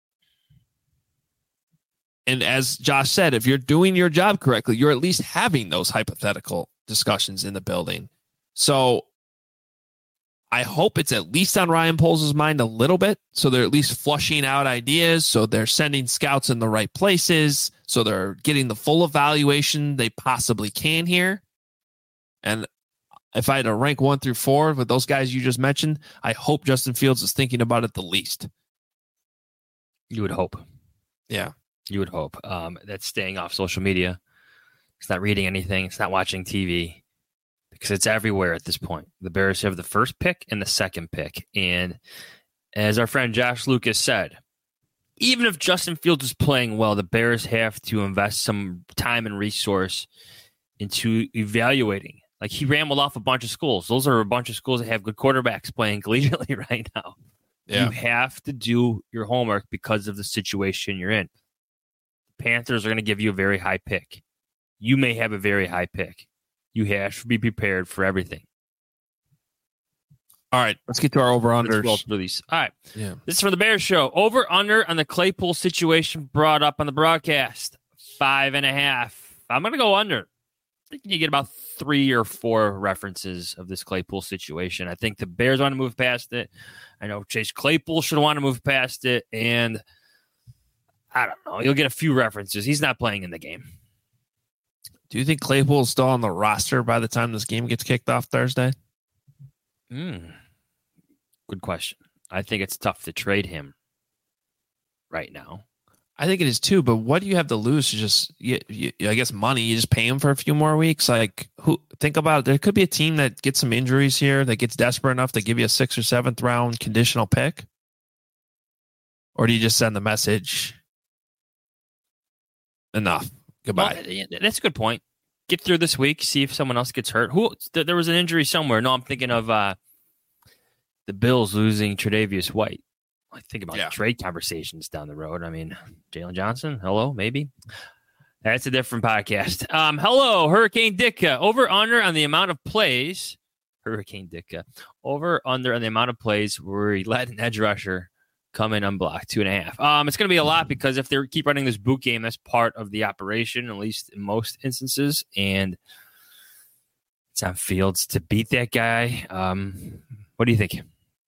and as Josh said, if you're doing your job correctly, you're at least having those hypothetical discussions in the building. So I hope it's at least on Ryan Poles' mind a little bit. So they're at least flushing out ideas. So they're sending scouts in the right places. So they're getting the full evaluation they possibly can here. And if I had to rank one through four with those guys you just mentioned, I hope Justin Fields is thinking about it the least. You would hope. Yeah. You would hope. Um, that's staying off social media. It's not reading anything. It's not watching T V because it's everywhere at this point. The Bears have the first pick and the second pick. And as our friend Josh Lucas said, even if Justin Fields is playing well, the Bears have to invest some time and resource into evaluating. Like, he rambled off a bunch of schools. Those are a bunch of schools that have good quarterbacks playing collegiately right now. Yeah. You have to do your homework because of the situation you're in. Panthers are going to give you a very high pick. You may have a very high pick. You have to be prepared for everything. All right, let's get to our over-unders. Let's roll these. All right. Yeah. This is from the Bears show. Over-under on the Claypool situation brought up on the broadcast. Five and a half. I'm going to go under. I think you get about three or four references of this Claypool situation. I think the Bears want to move past it. I know Chase Claypool should want to move past it, and I don't know. You'll get a few references. He's not playing in the game. Do you think Claypool is still on the roster by the time this game gets kicked off Thursday? Mm. Good question. I think it's tough to trade him right now. I think it is too, but what do you have to lose? To just, you, you, I guess, money. You just pay him for a few more weeks. Like, who? Think about it. There could be a team that gets some injuries here that gets desperate enough to give you a sixth or seventh round conditional pick. Or do you just send the message? Enough. Goodbye. Well, that's a good point. Get through this week. See if someone else gets hurt. Who? There was an injury somewhere. No, I'm thinking of uh, the Bills losing Tre'Davious White. I think about yeah. trade conversations down the road. I mean, Jalen Johnson, hello, maybe. That's a different podcast. Um, hello, Hurricane Ditka. Over under on the amount of plays. Hurricane Ditka. Over under on the amount of plays where he let an edge rusher come in unblocked. Two and a half. Um, it's going to be a lot because if they keep running this boot game, that's part of the operation, at least in most instances. And it's on Fields to beat that guy. Um, what do you think?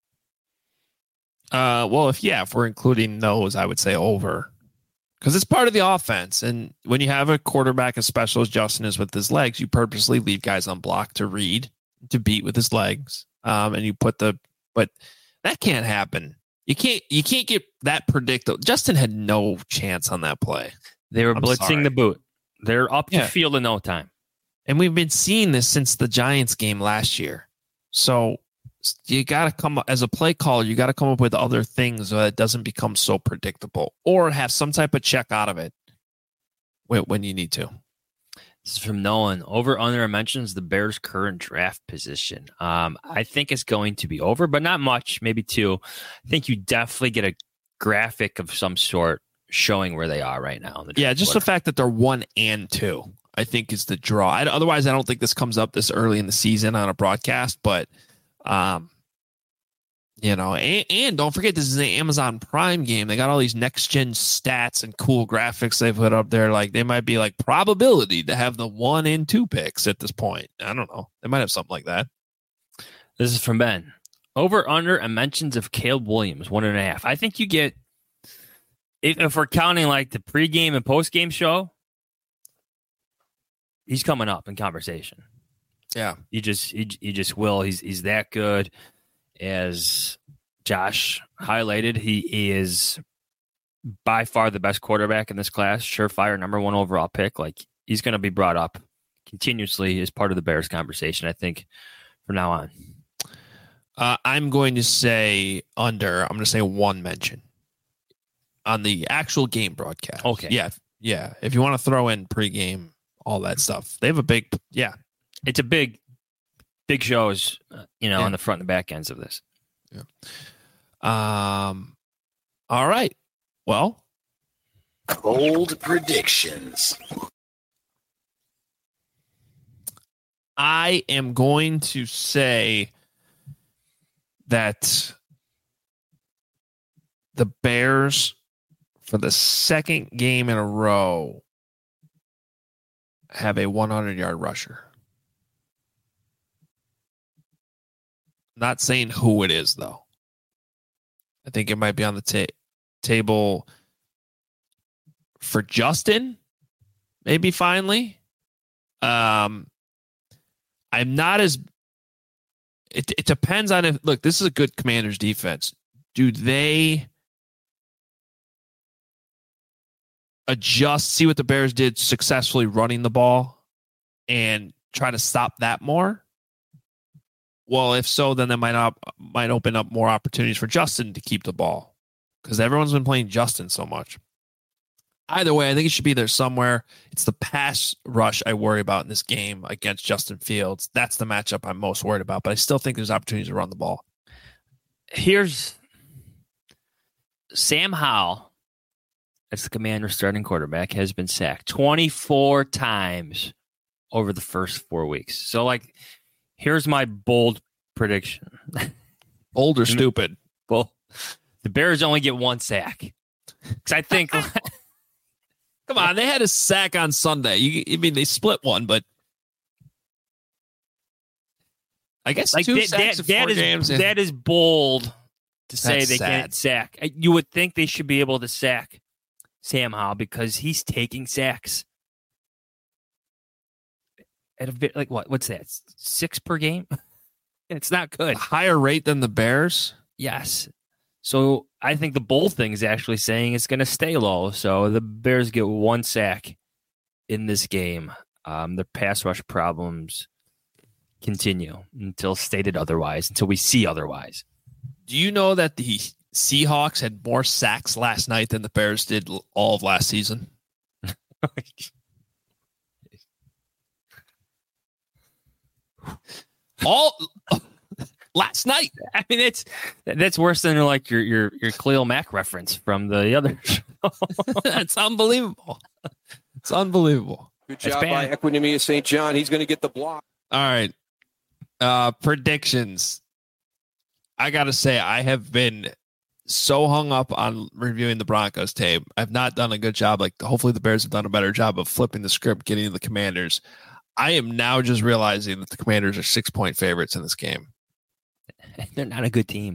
Uh, well, if yeah, if we're including those, I would say over, because it's part of the offense. And when you have a quarterback as special as Justin is with his legs, you purposely leave guys unblocked to read, to beat with his legs, um, and you put the. But that can't happen. You can't. You can't get that predictable. Justin had no chance on that play. They were I'm blitzing sorry. the boot. They're up the Yeah. field in no time, and we've been seeing this since the Giants game last year. So. You got to come as a play caller. You got to come up with other things so that it doesn't become so predictable, or have some type of check out of it when, when you need to. This is from Nolan. Over under mentions the Bears' current draft position. Um, I think it's going to be over, but not much, maybe two. I think you definitely get a graphic of some sort showing where they are right now. In the Yeah, just order. the fact that they're one and two, I think, is the draw. I, otherwise, I don't think this comes up this early in the season on a broadcast, but. Um, you know, and, and don't forget, this is an Amazon Prime game. They got all these next gen stats and cool graphics they put up there. Like, they might be like probability to have the one and two picks at this point. I don't know. They might have something like that. This is from Ben. Over under and mentions of Caleb Williams, one and a half. I think you get, if, if we're counting like the pregame and postgame show, he's coming up in conversation. Yeah, he just he, he just will. He's he's that good. As Josh highlighted, he is by far the best quarterback in this class. Surefire number one overall pick. Like, he's going to be brought up continuously as part of the Bears conversation, I think, from now on. Uh, I'm going to say under. I'm going to say one mention on the actual game broadcast. Okay. Yeah, yeah. If you want to throw in pregame, all that stuff, they have a big yeah. It's a big, big shows, uh, you know, Yeah. on the front and back ends of this. Yeah. Um. All right. Well, Cold predictions. I am going to say that the Bears, for the second game in a row, have a hundred-yard rusher. Not saying who it is, though. I think it might be on the ta- table for Justin, maybe finally. Um, I'm not as... It, it depends on if... Look, this is a good Commanders defense. Do they adjust, see what the Bears did successfully running the ball and try to stop that more? Well, if so, then that might not, might open up more opportunities for Justin to keep the ball because everyone's been playing Justin so much. Either way, I think it should be there somewhere. It's the pass rush I worry about in this game against Justin Fields. That's the matchup I'm most worried about, but I still think there's opportunities to run the ball. Here's Sam Howell, as the Commander's starting quarterback, has been sacked twenty-four times over the first four weeks. So, like, here's my bold prediction. Bold or stupid? Well, the Bears only get one sack. Because I think... Come on, they had a sack on Sunday. You, I mean, they split one, but I guess like two that, sacks that, in four that is, games. That is bold to say That's they sad. can't sack. You would think they should be able to sack Sam Howell because he's taking sacks at a bit like what? What's that? Six per game? It's not good. A higher rate than the Bears. Yes. So I think the bold thing is actually saying it's going to stay low. So the Bears get one sack in this game. Um, their pass rush problems continue until stated otherwise, until we see otherwise. Do you know that the Seahawks had more sacks last night than the Bears did all of last season? all... Last night. I mean, it's that's worse than like your your your Khalil Mack reference from the other show. That's unbelievable. It's unbelievable. Good job by Equinemius Saint John. He's going to get the block. All right. Uh, predictions. I got to say, I have been so hung up on reviewing the Broncos tape. I've not done a good job. Like, hopefully the Bears have done a better job of flipping the script, getting to the Commanders. I am now just realizing that the Commanders are six-point favorites in this game. They're not a good team.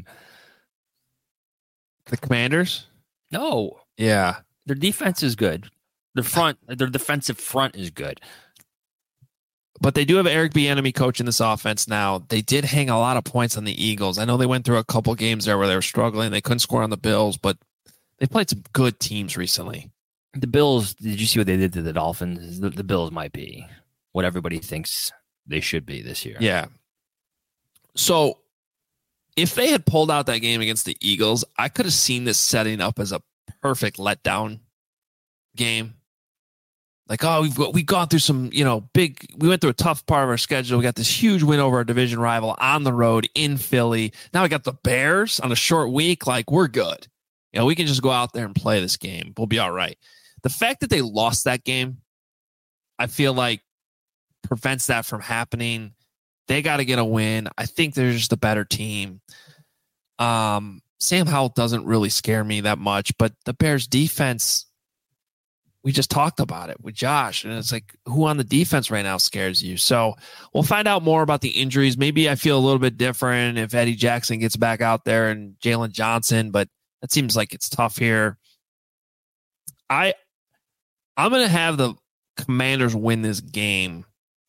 The Commanders? No. Yeah. Their defense is good. Their front, their defensive front is good. But they do have Eric Bieniemy coaching this offense now. They did hang a lot of points on the Eagles. I know they went through a couple games there where they were struggling. They couldn't score on the Bills, but they played some good teams recently. The Bills, did you see what they did to the Dolphins? The, the Bills might be what everybody thinks they should be this year. Yeah. So if they had pulled out that game against the Eagles, I could have seen this setting up as a perfect letdown game. Like, oh, we've we've gone through some, you know, big, we went through a tough part of our schedule. We got this huge win over our division rival on the road in Philly. Now we got the Bears on a short week. Like, we're good. You know, we can just go out there and play this game. We'll be all right. The fact that they lost that game, I feel like prevents that from happening. They got to get a win. I think they're just a better team. Um, Sam Howell doesn't really scare me that much, but the Bears defense, we just talked about it with Josh, and it's like, who on the defense right now scares you? So we'll find out more about the injuries. Maybe I feel a little bit different if Eddie Jackson gets back out there and Jalen Johnson, but that seems like it's tough here. I, I'm going to have the Commanders win this game.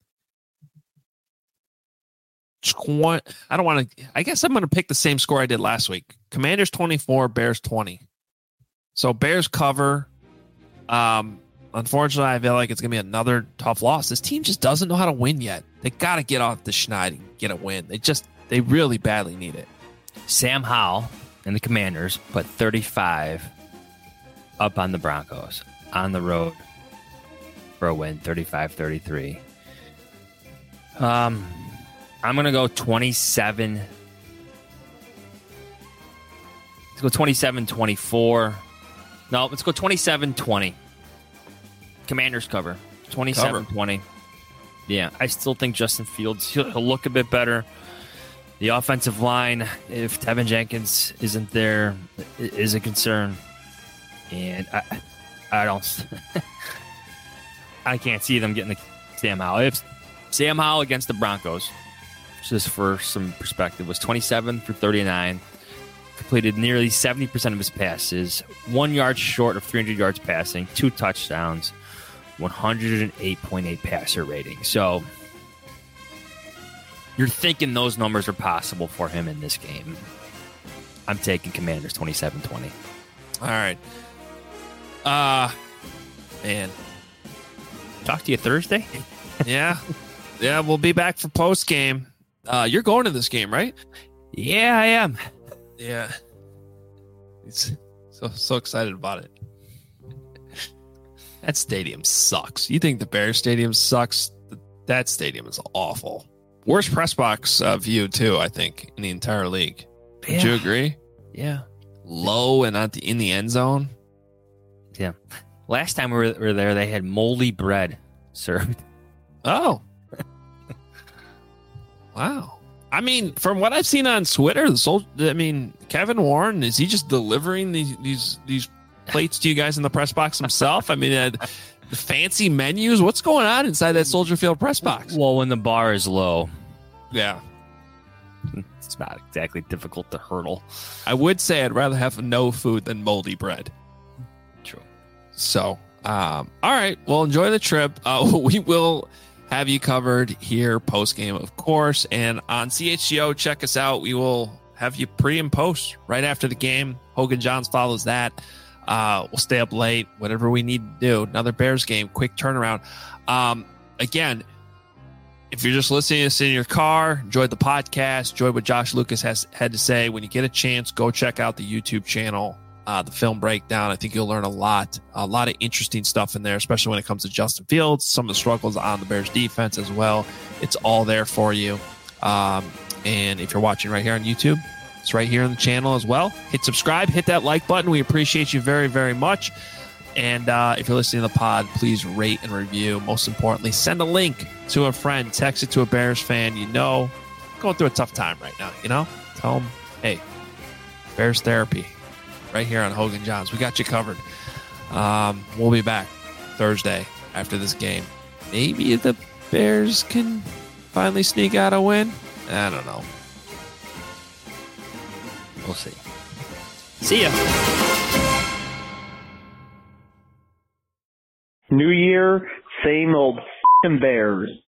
I don't want to, I guess I'm going to pick the same score I did last week. Commanders twenty-four, Bears twenty. So Bears cover. Um, unfortunately, I feel like it's going to be another tough loss. This team just doesn't know how to win yet. They got to get off the schneid and get a win. They just, they really badly need it. Sam Howell and the Commanders put thirty-five up on the Broncos on the road for a win, thirty-five thirty-three. Um, I'm going to go twenty-seven Let's go twenty-seven twenty-four. No, let's go twenty-seven twenty. Commanders cover. twenty-seven twenty. Yeah, I still think Justin Fields, he'll, he'll look a bit better. The offensive line, if Tevin Jenkins isn't there, is a concern. And I, I don't, I can't see them getting the Sam Howell. If Sam Howell against the Broncos, just for some perspective, was twenty-seven for thirty-nine, completed nearly seventy percent of his passes, one yard short of three hundred yards passing, two touchdowns, one hundred eight point eight passer rating. So you're thinking those numbers are possible for him in this game. I'm taking Commanders twenty-seven twenty. All right. Uh, man. Talk to you Thursday? Yeah. Yeah, we'll be back for post game. Uh, you're going to this game, right? Yeah, I am. Yeah. It's so so excited about it. That stadium sucks. You think the Bears stadium sucks? That stadium is awful. Worst press box uh, view, too, I think, in the entire league. Yeah. Would you agree? Yeah. Low and at the, in the end zone. Yeah. Last time we were, we were there, they had moldy bread served. Oh. Wow. I mean, from what I've seen on Twitter, the soul, I mean, Kevin Warren, is he just delivering these these these plates to you guys in the press box himself? I mean, uh, the fancy menus. What's going on inside that Soldier Field press box? Well, when the bar is low, yeah, it's not exactly difficult to hurdle. I would say I'd rather have no food than moldy bread. True. So, um, all right. Well, enjoy the trip. Uh, we will have you covered here post game, of course, and on C H G O. Check us out. We will have you pre and post right after the game. Hogan Johns follows that. Uh, we'll stay up late, whatever we need to do. Another Bears game, quick turnaround. Um, again, if you're just listening to this in your car, enjoyed the podcast, enjoyed what Josh Lucas has had to say, when you get a chance, go check out the YouTube channel, uh, the film breakdown. I think you'll learn a lot, a lot of interesting stuff in there, especially when it comes to Justin Fields, some of the struggles on the Bears defense as well. It's all there for you. Um, and if you're watching right here on YouTube, it's right here on the channel as well. Hit subscribe, hit that like button. We appreciate you very, very much. And uh, if you're listening to the pod, please rate and review. Most importantly, send a link to a friend. Text it to a Bears fan you know. Going through a tough time right now, you know? Tell them, hey, Bears therapy right here on Hogan Johns. We got you covered. Um, we'll be back Thursday after this game. Maybe the Bears can finally sneak out a win. I don't know. We'll see. See ya. New year, same old f***ing Bears.